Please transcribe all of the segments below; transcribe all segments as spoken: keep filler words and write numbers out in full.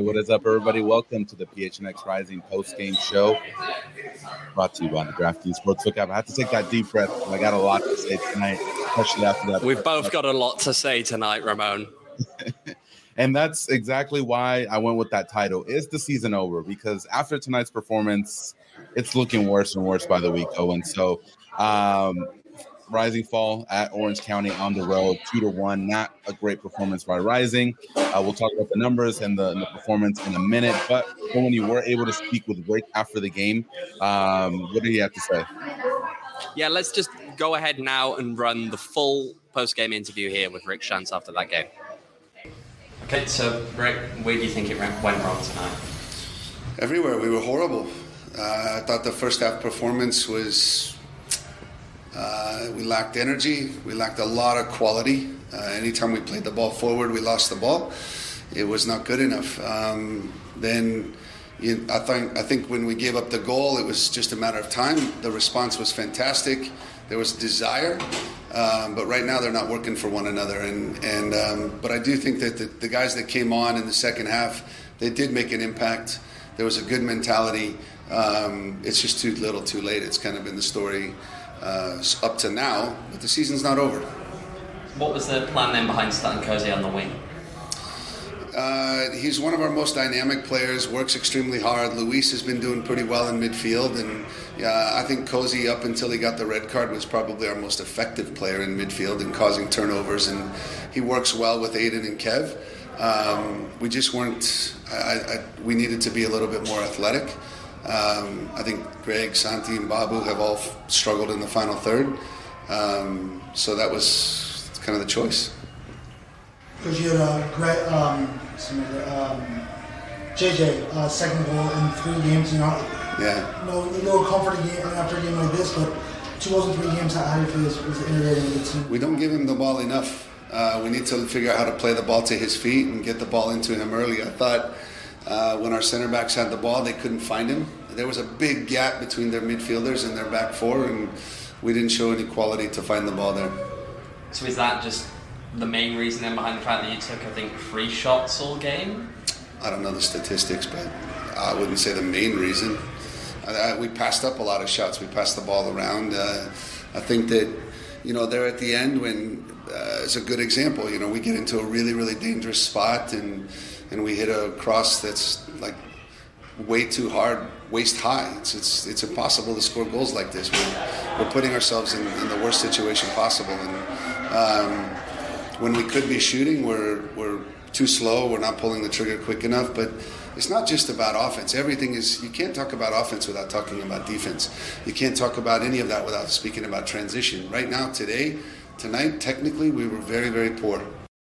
what is up, everybody? Welcome to the P H N X Rising post-game show, brought to you by the DraftKings Sportsbook app. I have to take that deep breath because I got a lot to say tonight, especially after that. We've both got a lot to say tonight, Ramon. And that's exactly why I went with that title. Is the season over? Because after tonight's performance, it's looking worse and worse by the week, Owen. So, um, Rising fall at Orange County on the road, two to one. Not a great performance by Rising. Uh, we'll talk about the numbers and the, and the performance in a minute. But when you were able to speak with Rick after the game, um, what did he have to say? Yeah, let's just go ahead now and run the full post-game interview here with Rick Schantz after that game. Okay, so Rick, where do you think it went wrong tonight? Everywhere. We were horrible. Uh, I thought the first half performance was. Uh, we lacked energy. We lacked a lot of quality. Uh, anytime we played the ball forward, we lost the ball. It was not good enough. Um, then you, I think I think when we gave up the goal, it was just a matter of time. The response was fantastic. There was desire, um, but right now they're not working for one another. And and um, but I do think that the, the guys that came on in the second half, they did make an impact. There was a good mentality. Um, it's just too little, too late. It's kind of been the story. Uh, up to now, but the season's not over. What was the plan then behind starting Cozy on the wing? Uh, he's one of our most dynamic players, works extremely hard. Luis has been doing pretty well in midfield, and yeah, I think Cozy, up until he got the red card, was probably our most effective player in midfield and causing turnovers, and he works well with Aiden and Kev. Um, we just weren't, I, I, we needed to be a little bit more athletic. Um, I think Greg, Santi, and Babu have all f- struggled in the final third. Um, so that was kind of the choice. Because you had a great, um, um, J J, uh, second goal in three games, you know. Yeah. No, no comforting game after a game like this, but two goals in three games, how do you feel is, is integrating with the team? We don't give him the ball enough. Uh, we need to figure out how to play the ball to his feet and get the ball into him early. I thought uh, when our center backs had the ball, they couldn't find him. There was a big gap between their midfielders and their back four, and we didn't show any quality to find the ball there. So is that just the main reason then behind the fact that you took, I think, three shots all game? I don't know the statistics, but I wouldn't say the main reason. I, I, we passed up a lot of shots. We passed the ball around. Uh, I think that, you know, there at the end when uh, it's a good example. You know, we get into a really, really dangerous spot and and we hit a cross that's like way too hard, waist high. It's it's it's impossible to score goals like this. We're, we're putting ourselves in, in the worst situation possible. And um, when we could be shooting, we're we're too slow. We're not pulling the trigger quick enough. But it's not just about offense. Everything is, you can't talk about offense without talking about defense. You can't talk about any of that without speaking about transition. Right now, today, tonight, technically, we were very, very poor.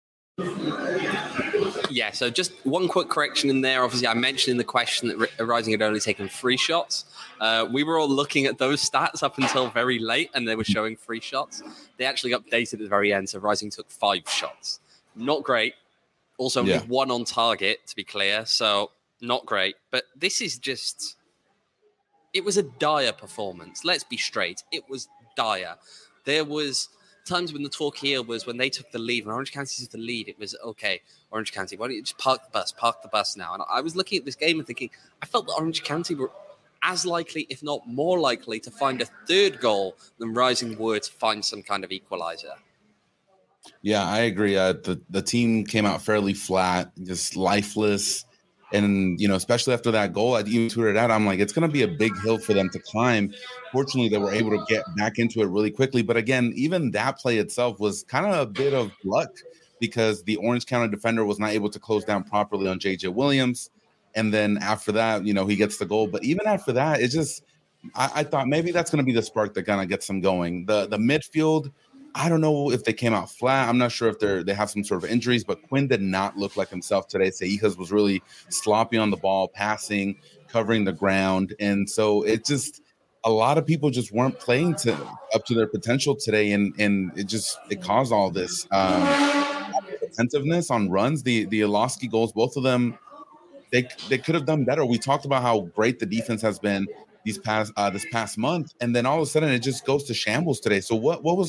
Yeah, so just one quick correction in there. Obviously, I mentioned in the question that Rising had only taken three shots. Uh, we were all looking at those stats up until very late, and they were showing three shots. They actually updated at the very end, so Rising took five shots. Not great. Also, yeah. One on target, to be clear, so not great. But this is just... It was a dire performance. Let's be straight. It was dire. There was times when the talk here was when they took the lead, when Orange County took the lead, it was, okay, Orange County, why don't you just park the bus, park the bus now? And I was looking at this game and thinking, I felt that Orange County were as likely, if not more likely, to find a third goal than Rising were to find some kind of equalizer. Yeah, I agree. Uh, the, the team came out fairly flat, just lifeless. And, you know, especially after that goal, I even tweeted out, I'm like, it's going to be a big hill for them to climb. Fortunately, they were able to get back into it really quickly. But again, even that play itself was kind of a bit of luck because the Orange County defender was not able to close down properly on J J Williams. And then after that, you know, he gets the goal. But even after that, it's just, I, I thought maybe that's going to be the spark that kind of gets them going. The the midfield, I don't know if they came out flat. I'm not sure if they're they have some sort of injuries, but Quinn did not look like himself today. Seijas was really sloppy on the ball, passing, covering the ground. And so it just, a lot of people just weren't playing to up to their potential today. And and it just, it caused all this um, attentiveness on runs. The the Ilosky goals, both of them, they they could have done better. We talked about how great the defense has been these past uh, this past month. And then all of a sudden it just goes to shambles today. So what what was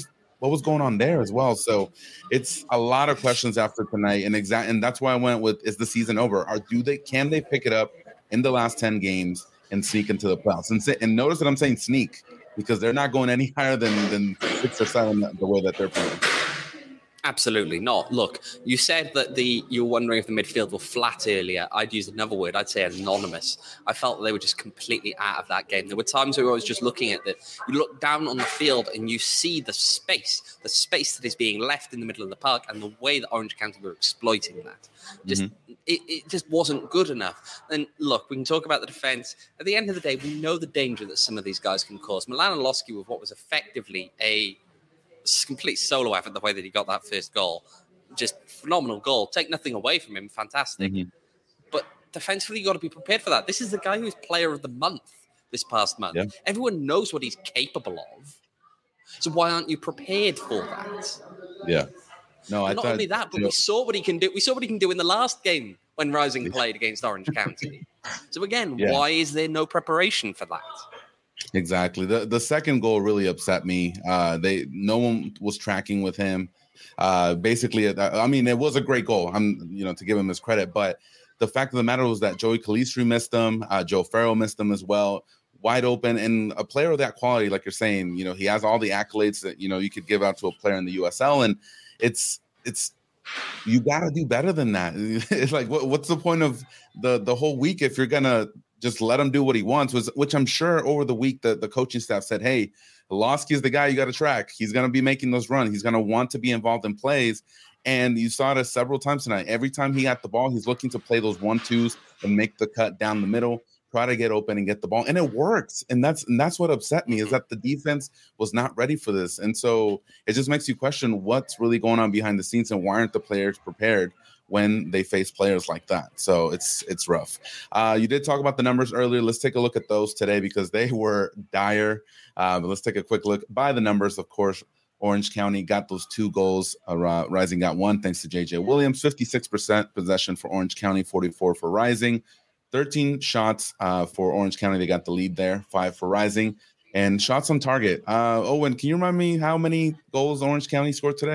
what was going on there as well? So it's a lot of questions after tonight, and exact, and that's why I went with: is the season over? Or do they? Can they pick it up in the last ten games and sneak into the playoffs? And, say, and notice that I'm saying sneak because they're not going any higher than than six or seven the way that they're playing. Absolutely not. Look, you said that the you were wondering if the midfield were flat earlier. I'd use another word. I'd say anonymous. I felt they were just completely out of that game. There were times where I was just looking at it. You look down on the field and you see the space, the space that is being left in the middle of the park, and the way that Orange County were exploiting that. Just mm-hmm. it, it just wasn't good enough. And look, we can talk about the defense. At the end of the day, we know the danger that some of these guys can cause. Milan Alosky with what was effectively a complete solo effort, the way that he got that first goal, just phenomenal goal. Take nothing away from him, fantastic. Mm-hmm. But defensively, you got to be prepared for that. This is the guy who was player of the month this past month. Yeah. Everyone knows what he's capable of. So why aren't you prepared for that? Yeah. No, I not thought, only that, but you know, we saw what he can do. We saw what he can do in the last game when Rising played against Orange County. So again, yeah. why is there no preparation for that? Exactly. The the second goal really upset me. Uh, they no one was tracking with him. Uh, basically, I mean, it was a great goal. I'm, you know, to give him his credit, but the fact of the matter was that Joey Calistri missed him. Uh, Joe Farrell missed him as well. Wide open, and a player of that quality, like you're saying, you know, he has all the accolades that you know you could give out to a player in the U S L, and it's it's you got to do better than that. It's like, what, what's the point of the the whole week if you're gonna just let him do what he wants, was which I'm sure over the week the, the coaching staff said, hey, Alosky is the guy you got to track. He's going to be making those runs. He's going to want to be involved in plays. And you saw it several times tonight. Every time he got the ball, he's looking to play those one-twos and make the cut down the middle, try to get open and get the ball. And it works. And that's and that's what upset me, is that the defense was not ready for this. And so it just makes you question what's really going on behind the scenes and why aren't the players prepared when they face players like that. So it's it's rough. Uh, you did talk about the numbers earlier. Let's take a look at those today because they were dire. Uh, but let's take a quick look. By the numbers, of course, Orange County got those two goals. Uh, Rising got one thanks to J J Williams. fifty-six percent possession for Orange County, forty-four for Rising. thirteen shots uh, for Orange County. They got the lead there, five for Rising. And shots on target. Uh, Owen, can you remind me how many goals Orange County scored today?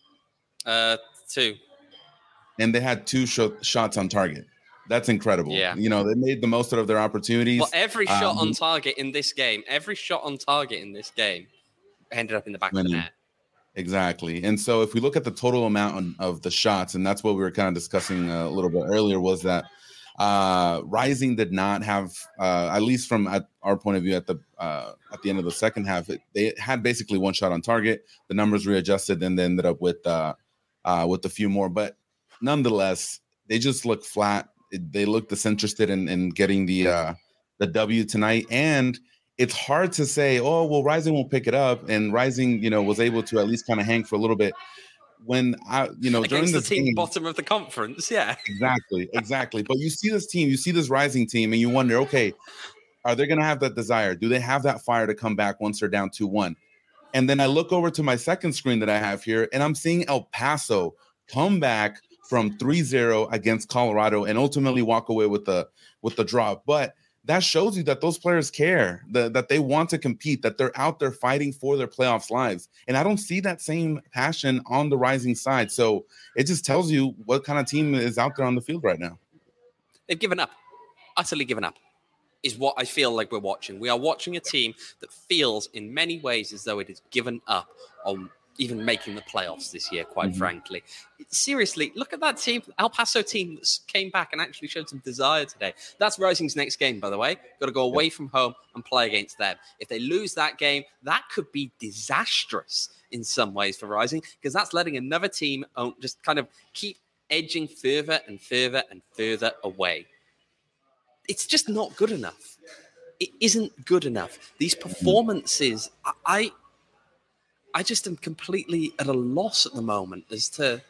Uh, two. And they had two sh- shots on target. That's incredible. Yeah. You know, they made the most out of their opportunities. Well, every shot um, on target in this game, every shot on target in this game ended up in the back winning. of the net. Exactly. And so if we look at the total amount of the shots, and that's what we were kind of discussing a little bit earlier, was that uh, Rising did not have, uh, at least from at our point of view at the uh, at the end of the second half, it, they had basically one shot on target. The numbers readjusted and they ended up with uh, uh, with a few more. But nonetheless, they just look flat. They look disinterested in, in getting the uh, the W tonight. And it's hard to say, oh, well, Rising will pick it up. And Rising, you know, was able to at least kind of hang for a little bit. When, I, you know, Against during the the team game, bottom of the conference, yeah. Exactly, exactly. But you see this team, you see this Rising team, and you wonder, okay, are they going to have that desire? Do they have that fire to come back once they're down two one? And then I look over to my second screen that I have here, and I'm seeing El Paso come back from three zero against Colorado and ultimately walk away with the with the draw. But that shows you that those players care, the, that they want to compete, that they're out there fighting for their playoffs lives. And I don't see that same passion on the Rising side. So it just tells you what kind of team is out there on the field right now. They've given up, utterly given up, is what I feel like we're watching. We are watching a team that feels in many ways as though it has given up on even making the playoffs this year, quite mm-hmm. frankly. Seriously, look at that team, El Paso team that came back and actually showed some desire today. That's Rising's next game, by the way. Got to go away from home and play against them. If they lose that game, that could be disastrous in some ways for Rising, because that's letting another team just kind of keep edging further and further and further away. It's just not good enough. It isn't good enough. These performances, I... I just am completely at a loss at the moment as to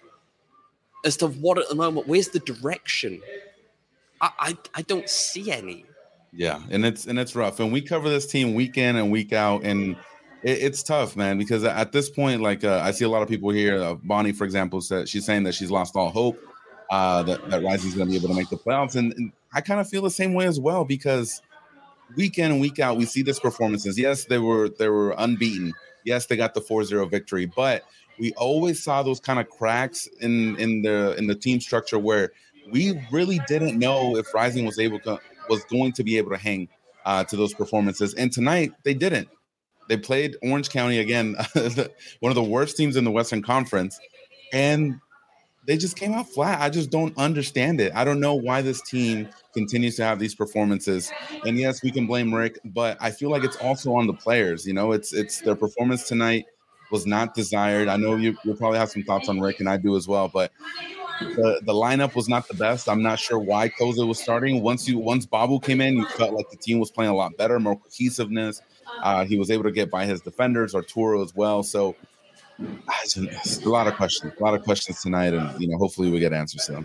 as to what at the moment. Where's the direction? I, I I don't see any. Yeah, and it's and it's rough. And we cover this team week in and week out, and it, it's tough, man. Because at this point, like uh, I see a lot of people here. Uh, Bonnie, for example, said she's saying that she's lost all hope uh, that that Rising's going to be able to make the playoffs, and, and I kind of feel the same way as well because week in and week out, we see these performances. Yes, they were they were unbeaten. Yes, they got the four zero victory, but we always saw those kind of cracks in in the in the team structure where we really didn't know if Rising was able to was going to be able to hang uh, to those performances. And tonight they didn't. They played Orange County again, one of the worst teams in the Western Conference, and they just came out flat. I just don't understand it. I don't know why this team continues to have these performances. And yes, we can blame Rick, but I feel like it's also on the players. You know, it's it's their performance tonight was not desired. I know you you'll probably have some thoughts on Rick, and I do as well, but the, the lineup was not the best. I'm not sure why Koza was starting. Once you once Babu came in, you felt like the team was playing a lot better, more cohesiveness. Uh, he was able to get by his defenders, Arturo as well. So a lot of questions, a lot of questions tonight, and you know, hopefully we get answers to them.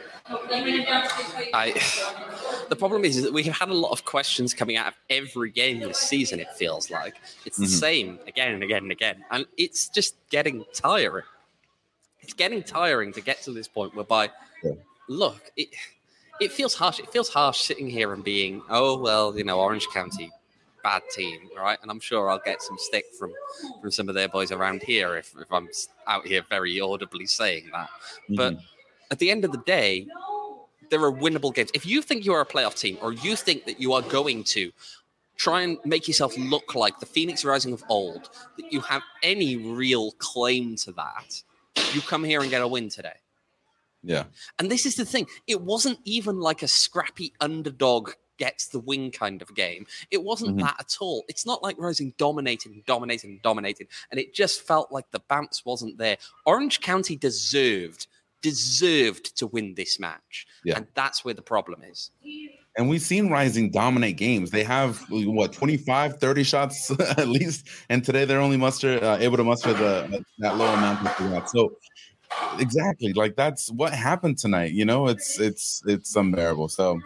I, the problem is, is that we have had a lot of questions coming out of every game this season. It feels like it's the mm-hmm. same again and again and again, and it's just getting tiring. It's getting tiring to get to this point whereby, yeah. look, it it feels harsh. It feels harsh sitting here and being, oh well, you know, Orange County. Bad team, right? And I'm sure I'll get some stick from from some of their boys around here if, if I'm out here very audibly saying that. Mm-hmm. But at the end of the day, there are winnable games. If you think you are a playoff team, or you think that you are going to try and make yourself look like the Phoenix Rising of old, that you have any real claim to that, you come here and get a win today. Yeah. And this is the thing. It wasn't even like a scrappy underdog gets the win kind of game. It wasn't mm-hmm. that at all. It's not like Rising dominated and dominated and dominated, and it just felt like the bounce wasn't there. Orange County deserved, deserved to win this match, yeah. and that's where the problem is. And we've seen Rising dominate games. They have, what, twenty-five, thirty shots at least, and today they're only muster uh, able to muster the that low amount of that. So exactly, like that's what happened tonight. You know, it's it's it's unbearable. So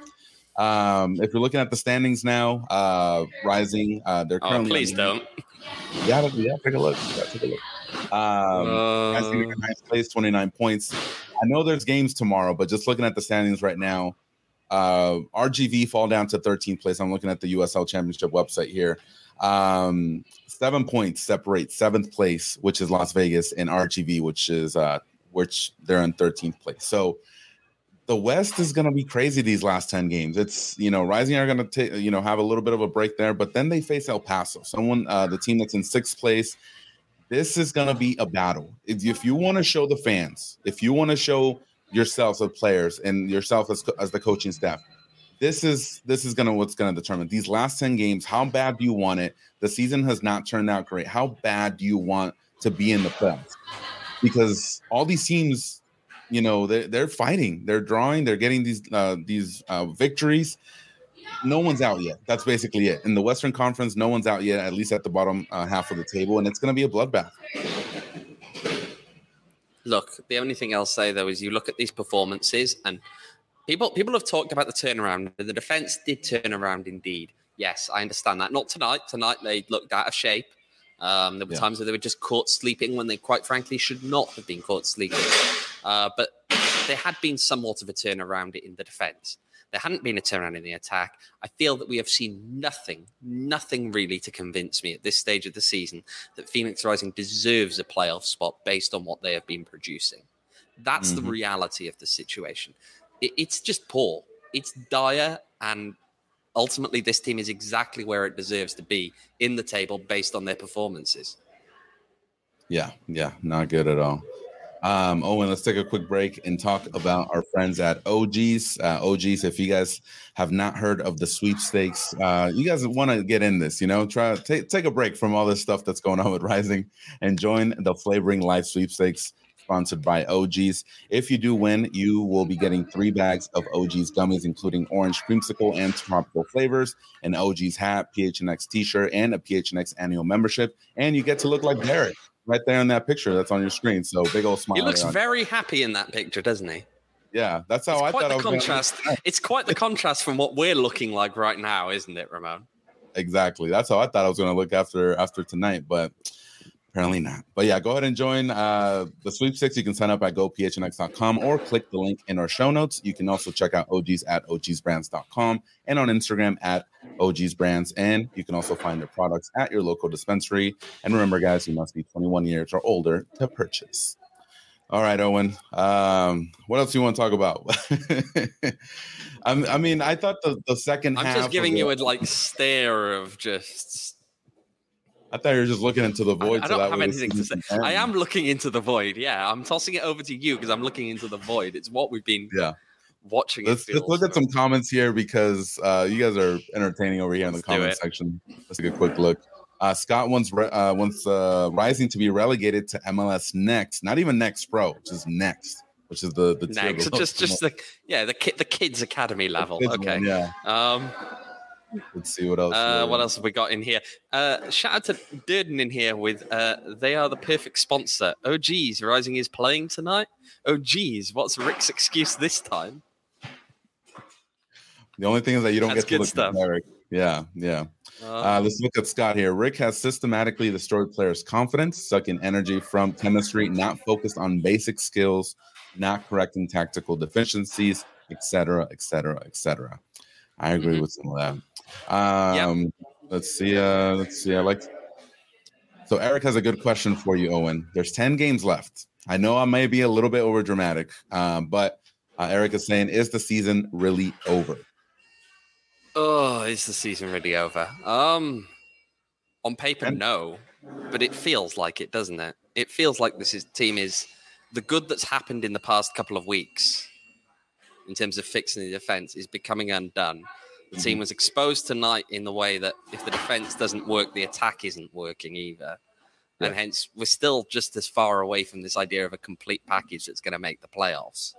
Um, if you're looking at the standings now, uh, Rising, uh, they're currently. Oh, please don't. Yeah, yeah, take a look. Yeah, take a look. Um, uh, Rising in ninth place, twenty-nine points. I know there's games tomorrow, but just looking at the standings right now, uh, R G V fall down to thirteenth place. I'm looking at the U S L Championship website here. Um, seven points separate seventh place, which is Las Vegas, and R G V, which is uh, which they're in thirteenth place. So. The West is going to be crazy these last ten games. It's, you know, Rising are going to take, you know, have a little bit of a break there, but then they face El Paso, someone, uh, the team that's in sixth place. This is going to be a battle. If, if you want to show the fans, if you want to show yourselves as players and yourself as, as the coaching staff, this is this is going to what's going to determine these last ten games. How bad do you want it? The season has not turned out great. How bad do you want to be in the playoffs? Because all these teams, you know, they're, they're fighting, they're drawing, they're getting these uh, these uh, victories. No one's out yet. That's basically it. In the Western Conference, no one's out yet, at least at the bottom uh, half of the table, and it's going to be a bloodbath. Look, the only thing I'll say, though, is you look at these performances, and people people have talked about the turnaround. The defense did turn around indeed. Yes, I understand that. Not tonight. Tonight, they looked out of shape. Um, there were yeah. times where they were just caught sleeping when they quite frankly should not have been caught sleeping. Uh, but there had been somewhat of a turnaround in the defense. There hadn't been a turnaround in the attack. I feel that we have seen nothing, nothing really to convince me at this stage of the season that Phoenix Rising deserves a playoff spot based on what they have been producing. That's mm-hmm. the reality of the situation. It, it's just poor. It's dire, and ultimately this team is exactly where it deserves to be in the table based on their performances. Yeah, yeah, not good at all. Um, Owen, let's take a quick break and talk about our friends at O G's. Uh, O G's, if you guys have not heard of the sweepstakes, uh, you guys want to get in this, you know, try to take, take a break from all this stuff that's going on with Rising and join the Flavoring Life sweepstakes sponsored by O G's. If you do win, you will be getting three bags of O G's gummies, including orange creamsicle and tropical flavors, an O G's hat, P H N X t-shirt, and a P H N X annual membership. And you get to look like Derek right there in that picture that's on your screen. So big old smile. He looks on. very happy in that picture, doesn't he? Yeah, that's how it's I quite thought the I was contrast. Gonna... It's quite the contrast from what we're looking like right now, isn't it, Ramon? Exactly. That's how I thought I was going to look after after tonight, but Apparently not. But yeah, go ahead and join uh, the sweepstakes. You can sign up at go p h n x dot com or click the link in our show notes. You can also check out O Gs at o gs brands dot com and on Instagram at O Gs Brands. And you can also find their products at your local dispensary. And remember, guys, you must be twenty-one years or older to purchase. All right, Owen. Um, what else do you want to talk about? I mean, I thought the, the second I'm half. I'm just giving you the, a like stare of just. I thought you were just looking into the void. I, I so don't that have way anything to say. end. I am looking into the void. Yeah, I'm tossing it over to you because I'm looking into the void. It's what we've been yeah. watching. Let's, let's look at some comments here because uh, you guys are entertaining over here in the Let's comment section. Let's take a quick look. Uh, Scott wants re- uh, wants uh, Rising to be relegated to M L S Next, not even Next Pro, just Next, which is the the Next. So just just the yeah the kid the kids academy level. Kids okay. one, yeah. Um. Let's see what else. Uh, what else have we got in here? Uh, shout out to Durden in here with uh, they are the perfect sponsor. Oh geez, Rising is playing tonight. Oh geez, what's Rick's excuse this time? The only thing is that you don't That's get to good look stuff. at Eric. Yeah, yeah. Uh, Uh, let's look at Scott here. Rick has systematically destroyed players' confidence, sucking energy from chemistry, not focused on basic skills, not correcting tactical deficiencies, et cetera, et cetera, et cetera. I agree Mm-hmm. with some of that. Um, yep. Let's see. Uh, let's see. I like. So Eric has a good question for you, Owen. There's ten games left. I know I may be a little bit over dramatic, um, but uh, Eric is saying, is the season really over? Oh, is the season really over? Um, on paper, And- no, but it feels like it, doesn't it? It feels like this is, team is the good that's happened in the past couple of weeks in terms of fixing the defense is becoming undone. The Mm-hmm. team was exposed tonight in the way that if the defense doesn't work, the attack isn't working either. And Yeah. hence, we're still just as far away from this idea of a complete package that's going to make the playoffs.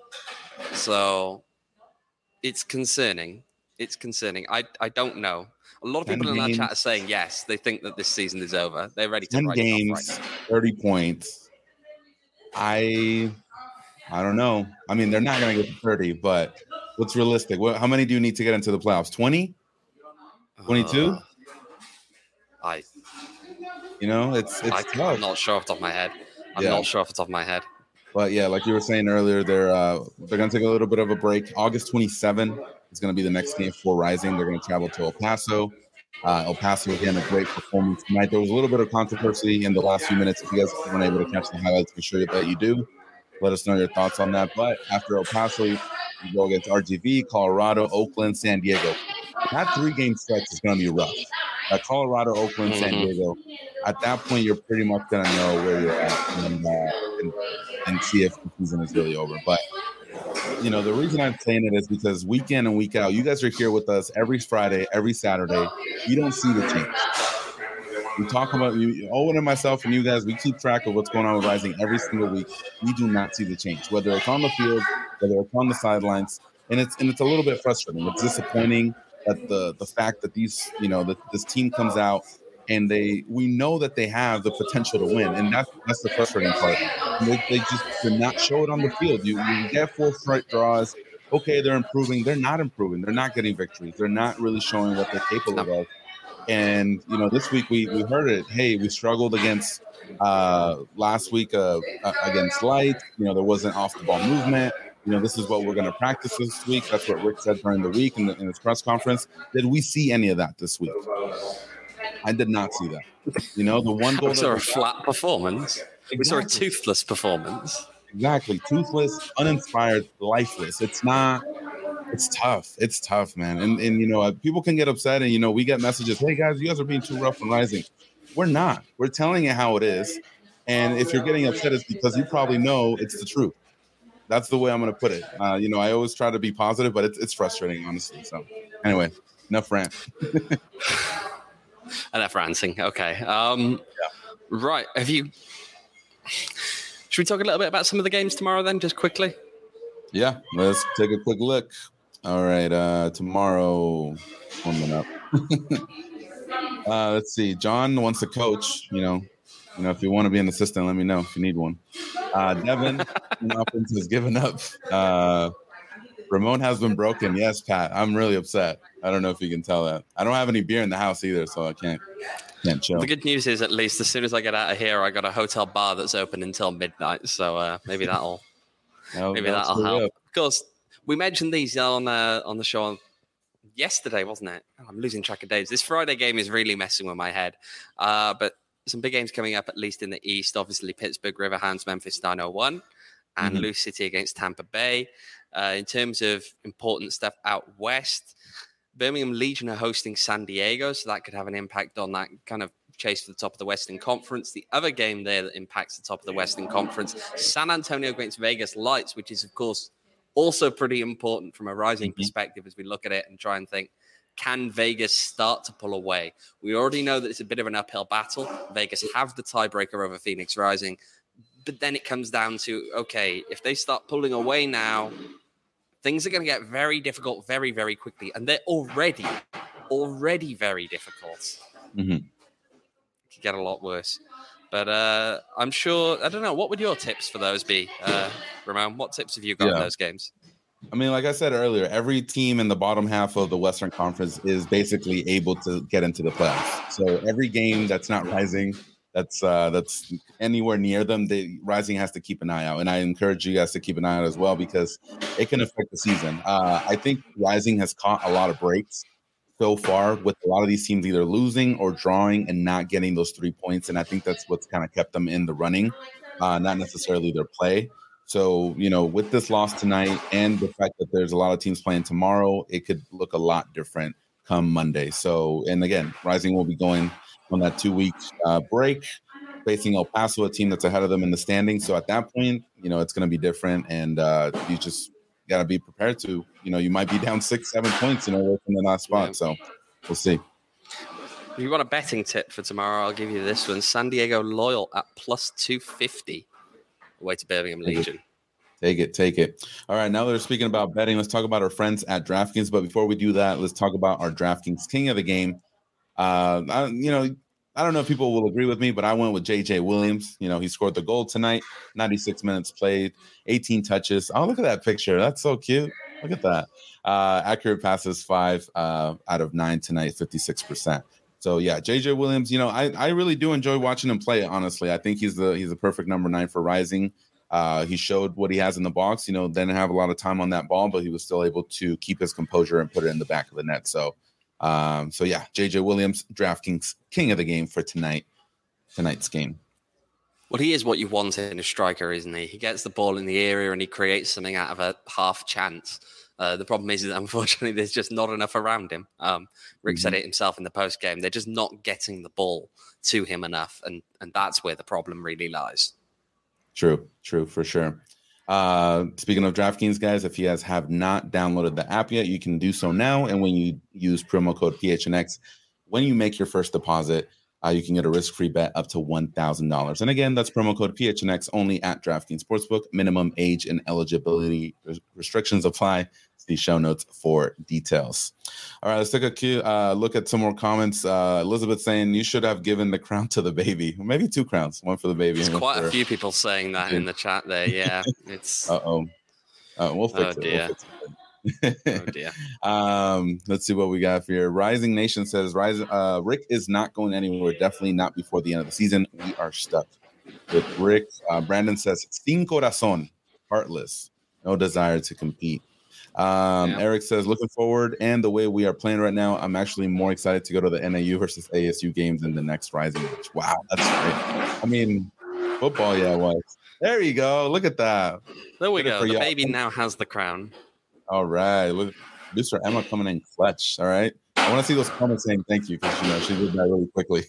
So it's concerning. It's concerning. I I don't know. A lot of ten people in our games. chat are saying yes, they think that this season is over. They're ready to ten write it off games, right now. thirty points. I I don't know. I mean, they're not going to get to thirty, but what's realistic? What, how many do you need to get into the playoffs? twenty? twenty-two? Uh, I You know, it's it's I, tough. I'm not sure off the top of my head. I'm Yeah. not sure off the top of my head. But yeah, like you were saying earlier, they're uh, they're going to take a little bit of a break. August twenty-seventh is going to be the next game for Rising. They're going to travel to El Paso. Uh, El Paso again, a great performance tonight. There was a little bit of controversy in the last few minutes. If you guys weren't able to catch the highlights, be sure that you do. Let us know your thoughts on that. But after El Paso, you go against R G V, Colorado, Oakland, San Diego. That three-game stretch is going to be rough. At Colorado, Oakland, San Mhm. Diego. At that point, you're pretty much going to know where you're at and, uh, and, and see if the season is really over. But, you know, the reason I'm saying it is because week in and week out, you guys are here with us every Friday, every Saturday. You don't see the change. We talk about you, Owen and myself and you guys, we keep track of what's going on with Rising every single week. We do not see the change, whether it's on the field, whether it's on the sidelines. And it's and it's a little bit frustrating. It's disappointing that the the fact that these, you know, that this team comes out and they we know that they have the potential to win. And that's that's the frustrating part. They, they just did not show it on the field. You, you get four straight draws. Okay, they're improving. They're not improving. They're not getting victories. They're not really showing what they're capable of. And, you know, this week we, we heard it. Hey, we struggled against uh, last week uh, against Light. You know, there wasn't off-the-ball movement. You know, this is what we're going to practice this week. That's what Rick said during the week in, the, in his press conference. Did we see any of that this week? I did not see that. You know, the one goal We saw that a we flat performance. We saw a Exactly. toothless performance. Exactly. Toothless, uninspired, lifeless. It's not, it's tough. It's tough, man. And, and you know, people can get upset and, you know, we get messages, hey, guys, you guys are being too rough on Rising. We're not. We're telling you how it is. And if you're getting upset, it's because you probably know it's the truth. That's the way I'm going to put it. Uh, you know, I always try to be positive, but it's, it's frustrating, honestly. So anyway, enough rant. Enough ranting. Okay. Um, Right. Have you... Should we talk a little bit about some of the games tomorrow then, just quickly? Yeah, let's take a quick look. All right, uh, tomorrow, coming up. uh, let's see. John wants to coach. You know, you know, if you want to be an assistant, let me know if you need one. Uh, Devin, in offense, has given up. Uh, Ramon has been broken. Yes, Pat. I'm really upset. I don't know if you can tell that. I don't have any beer in the house either, so I can't can't chill. The good news is, at least, as soon as I get out of here, I got a hotel bar that's open until midnight. So uh, maybe that'll No, maybe that'll help. Up. Of course, we mentioned these on uh, on the show yesterday, wasn't it? Oh, I'm losing track of days. This Friday game is really messing with my head. Uh, but some big games coming up, at least in the East. Obviously, Pittsburgh, Riverhounds, Memphis nine oh one, and mm-hmm. Lou City against Tampa Bay. Uh, in terms of important stuff out west, Birmingham Legion are hosting San Diego, so that could have an impact on that kind of chase for the top of the Western Conference. The other game there that impacts the top of the Western Conference, San Antonio against Vegas Lights, which is, of course, also pretty important from a Rising mm-hmm. perspective as we look at it and try and think, can Vegas start to pull away? We already know that it's a bit of an uphill battle. Vegas have the tiebreaker over Phoenix Rising. But then it comes down to, okay, if they start pulling away now, things are going to get very difficult very, very quickly. And they're already, already very difficult. Mm-hmm. It could get a lot worse. But uh, I'm sure, I don't know, what would your tips for those be, uh, Ramon? What tips have you got yeah. in those games? I mean, like I said earlier, every team in the bottom half of the Western Conference is basically able to get into the playoffs. So every game that's not Rising, that's uh, that's anywhere near them, the Rising has to keep an eye out. And I encourage you guys to keep an eye out as well, because it can affect the season. Uh, I think Rising has caught a lot of breaks so far with a lot of these teams either losing or drawing and not getting those three points. And I think that's what's kind of kept them in the running, uh, not necessarily their play. So, you know, with this loss tonight and the fact that there's a lot of teams playing tomorrow, it could look a lot different come Monday. So, and again, Rising will be going on that two-week uh, break, facing El Paso, a team that's ahead of them in the standings. So at that point, you know, it's going to be different. And uh, you just got to be prepared to, you know, you might be down six, seven points, you know, from the last spot. So we'll see. If you want a betting tip for tomorrow, I'll give you this one. San Diego Loyal at plus two fifty. Away to Birmingham Legion. Take it, take it. All right, now that we're speaking about betting, let's talk about our friends at DraftKings. But before we do that, let's talk about our DraftKings King of the Game. Uh, I, you know, I don't know if people will agree with me, but I went with J J Williams. You know, he scored the goal tonight, ninety-six minutes played, eighteen touches. Oh, look at that picture. That's so cute. Look at that. Uh, accurate passes, five uh, out of nine tonight, fifty-six percent. So yeah, J J Williams, you know, I, I really do enjoy watching him play, honestly. I think he's the he's the perfect number nine for Rising. Uh, he showed what he has in the box, you know, didn't have a lot of time on that ball, but he was still able to keep his composure and put it in the back of the net. So um, so yeah, J J Williams, DraftKings King of the Game for tonight, tonight's game. Well, he is what you want in a striker, isn't he? He gets the ball in the area and he creates something out of a half chance. Uh, the problem is that, unfortunately, there's just not enough around him. Um, Rick mm-hmm. said it himself in the post game. They're just not getting the ball to him enough, and and that's where the problem really lies. True, true, for sure. Uh, speaking of DraftKings, guys, if you guys have not downloaded the app yet, you can do so now. And when you use promo code P H N X, when you make your first deposit, uh, you can get a risk-free bet up to one thousand dollars. And again, that's promo code P H N X only at DraftKings Sportsbook. Minimum age and eligibility restrictions apply. See show notes for details. All right, let's take a cue, uh, look at some more comments. Uh, Elizabeth saying you should have given the crown to the baby. Maybe two crowns, one for the baby. There's quite for, a few people saying that in the chat there. Yeah, it's. Uh-oh. Uh, we'll fix oh, it. Dear. We'll fix it. Oh dear. Um, let's see what we got here. Rising Nation says, "Rise, uh, Rick is not going anywhere. Definitely not before the end of the season. We are stuck with Rick." Uh, Brandon says, "Sin corazón, heartless, no desire to compete." Um, yeah. Eric says, "Looking forward, and the way we are playing right now, I'm actually more excited to go to the N A U versus A S U games than the next Rising match." Wow, that's great. I mean, football, yeah, it was. There you go. Look at that. There we Good go. The y'all. Baby now has the crown. All right. Look, producer Emma coming in clutch. All right. I want to see those comments saying thank you, because, you know, she did that really quickly.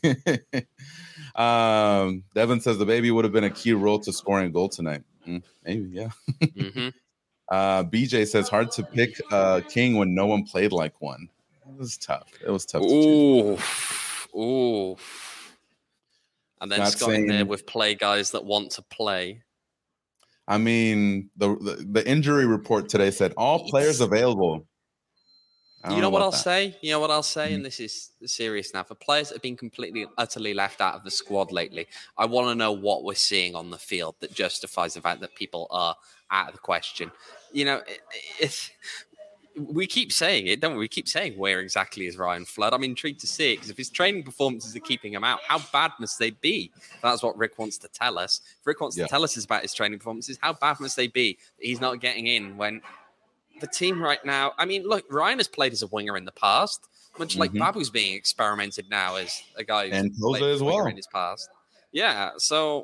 um, Devin says the baby would have been a key role to scoring a goal tonight. Mm, maybe, yeah. mm-hmm. uh, B J says hard to pick uh, King when no one played like one. It was tough. It was tough. Ooh. Ooh. And then Not Scott saying, in there with play guys that want to play. I mean, the, the the injury report today said all players available. I You know, know what I'll that. say? You know what I'll say? Mm-hmm. And this is serious now. For players that have been completely, utterly left out of the squad lately, I want to know what we're seeing on the field that justifies the fact that people are out of the question. You know, it, it's... We keep saying it, don't we? We keep saying, where exactly is Ryan Flood? I'm intrigued to see it, because if his training performances are keeping him out, how bad must they be? That's what Rick wants to tell us. If Rick wants yeah. to tell us about his training performances, how bad must they be that he's not getting in when the team right now... I mean, look, Ryan has played as a winger in the past, much like mm-hmm. Babu's being experimented now as a guy who's and played as well in his past. Yeah, so...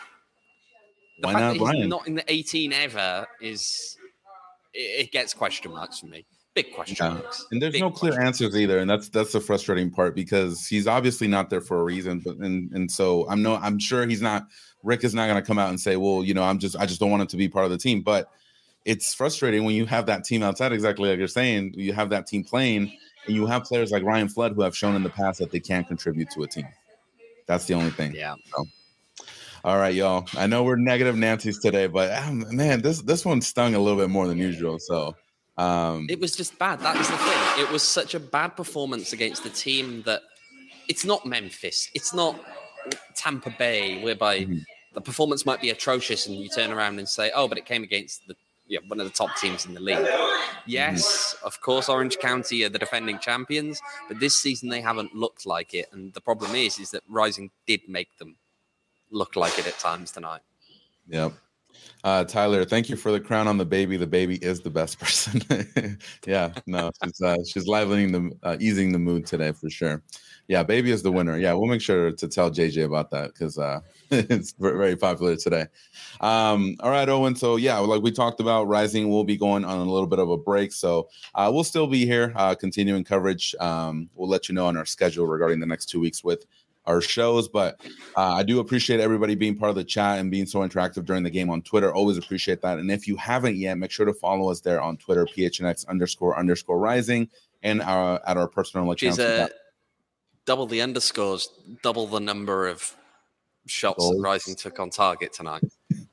The Why fact not that he's Ryan? not in the eighteen ever is... It gets question marks for me. Big question yeah. marks. And there's Big no clear answers either, and that's that's the frustrating part, because he's obviously not there for a reason. But and and so I'm no, I'm sure he's not. Rick is not going to come out and say, well, you know, I'm just I just don't want him to be part of the team. But it's frustrating when you have that team outside, exactly like you're saying. You have that team playing, and you have players like Ryan Flood who have shown in the past that they can't contribute to a team. That's the only thing. Yeah. So. All right, y'all. I know we're negative Nancy's today, but um, man, this this one stung a little bit more than usual. So um, it was just bad. That was the thing. It was such a bad performance against a team that it's not Memphis, it's not Tampa Bay, whereby mm-hmm. the performance might be atrocious, and you turn around and say, "Oh, but it came against the yeah one of the top teams in the league." Yes, mm-hmm. of course, Orange County are the defending champions, but this season they haven't looked like it, and the problem is, is that Rising did make them look like it at times tonight. Yep. Uh, Tyler, thank you for the crown on the baby. The baby is the best person. yeah, no, she's uh, she's livening the uh, easing the mood today for sure. Yeah, baby is the winner. Yeah, we'll make sure to tell J J about that, because uh, it's very popular today. Um, all right, Owen. So yeah, like we talked about, Rising will be going on a little bit of a break, so uh, we'll still be here uh, continuing coverage. Um, we'll let you know on our schedule regarding the next two weeks with our shows, but uh, I do appreciate everybody being part of the chat and being so interactive during the game on Twitter. Always appreciate that. And if you haven't yet, make sure to follow us there on Twitter, P H N X underscore underscore Rising, and our, at our personal accounts. Uh, double the underscores, double the number of shots Goals. that Rising took on target tonight.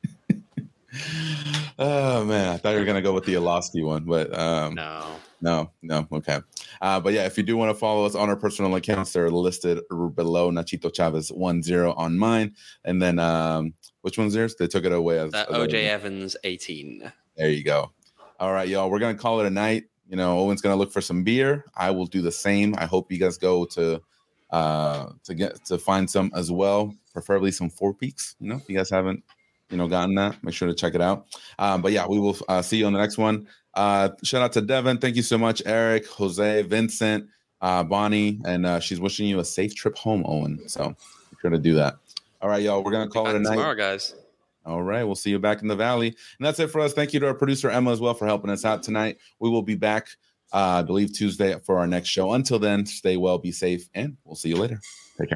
Oh man, I thought you were gonna go with the Alosky one, but um, no, no, no, okay. Uh, but yeah, if you do want to follow us on our personal accounts, they're listed below. Nachito Chavez one zero on mine, and then um, which one's theirs? They took it away as, uh, as O J Evans eighteen. There you go. All right, y'all, we're gonna call it a night. You know, Owen's gonna look for some beer. I will do the same. I hope you guys go to uh, to get to find some as well, preferably some Four Peaks. You know, if you guys haven't. You know, gotten that, make sure to check it out. Um, but yeah, we will uh, see you on the next one. Uh, shout out to Devin. Thank you so much, Eric, Jose, Vincent, uh, Bonnie, and uh, she's wishing you a safe trip home, Owen. So make sure to do that. All right, y'all, we're going to call it a night. Tomorrow, guys. All right, we'll see you back in the Valley. And that's it for us. Thank you to our producer, Emma, as well, for helping us out tonight. We will be back, uh, I believe, Tuesday for our next show. Until then, stay well, be safe, and we'll see you later.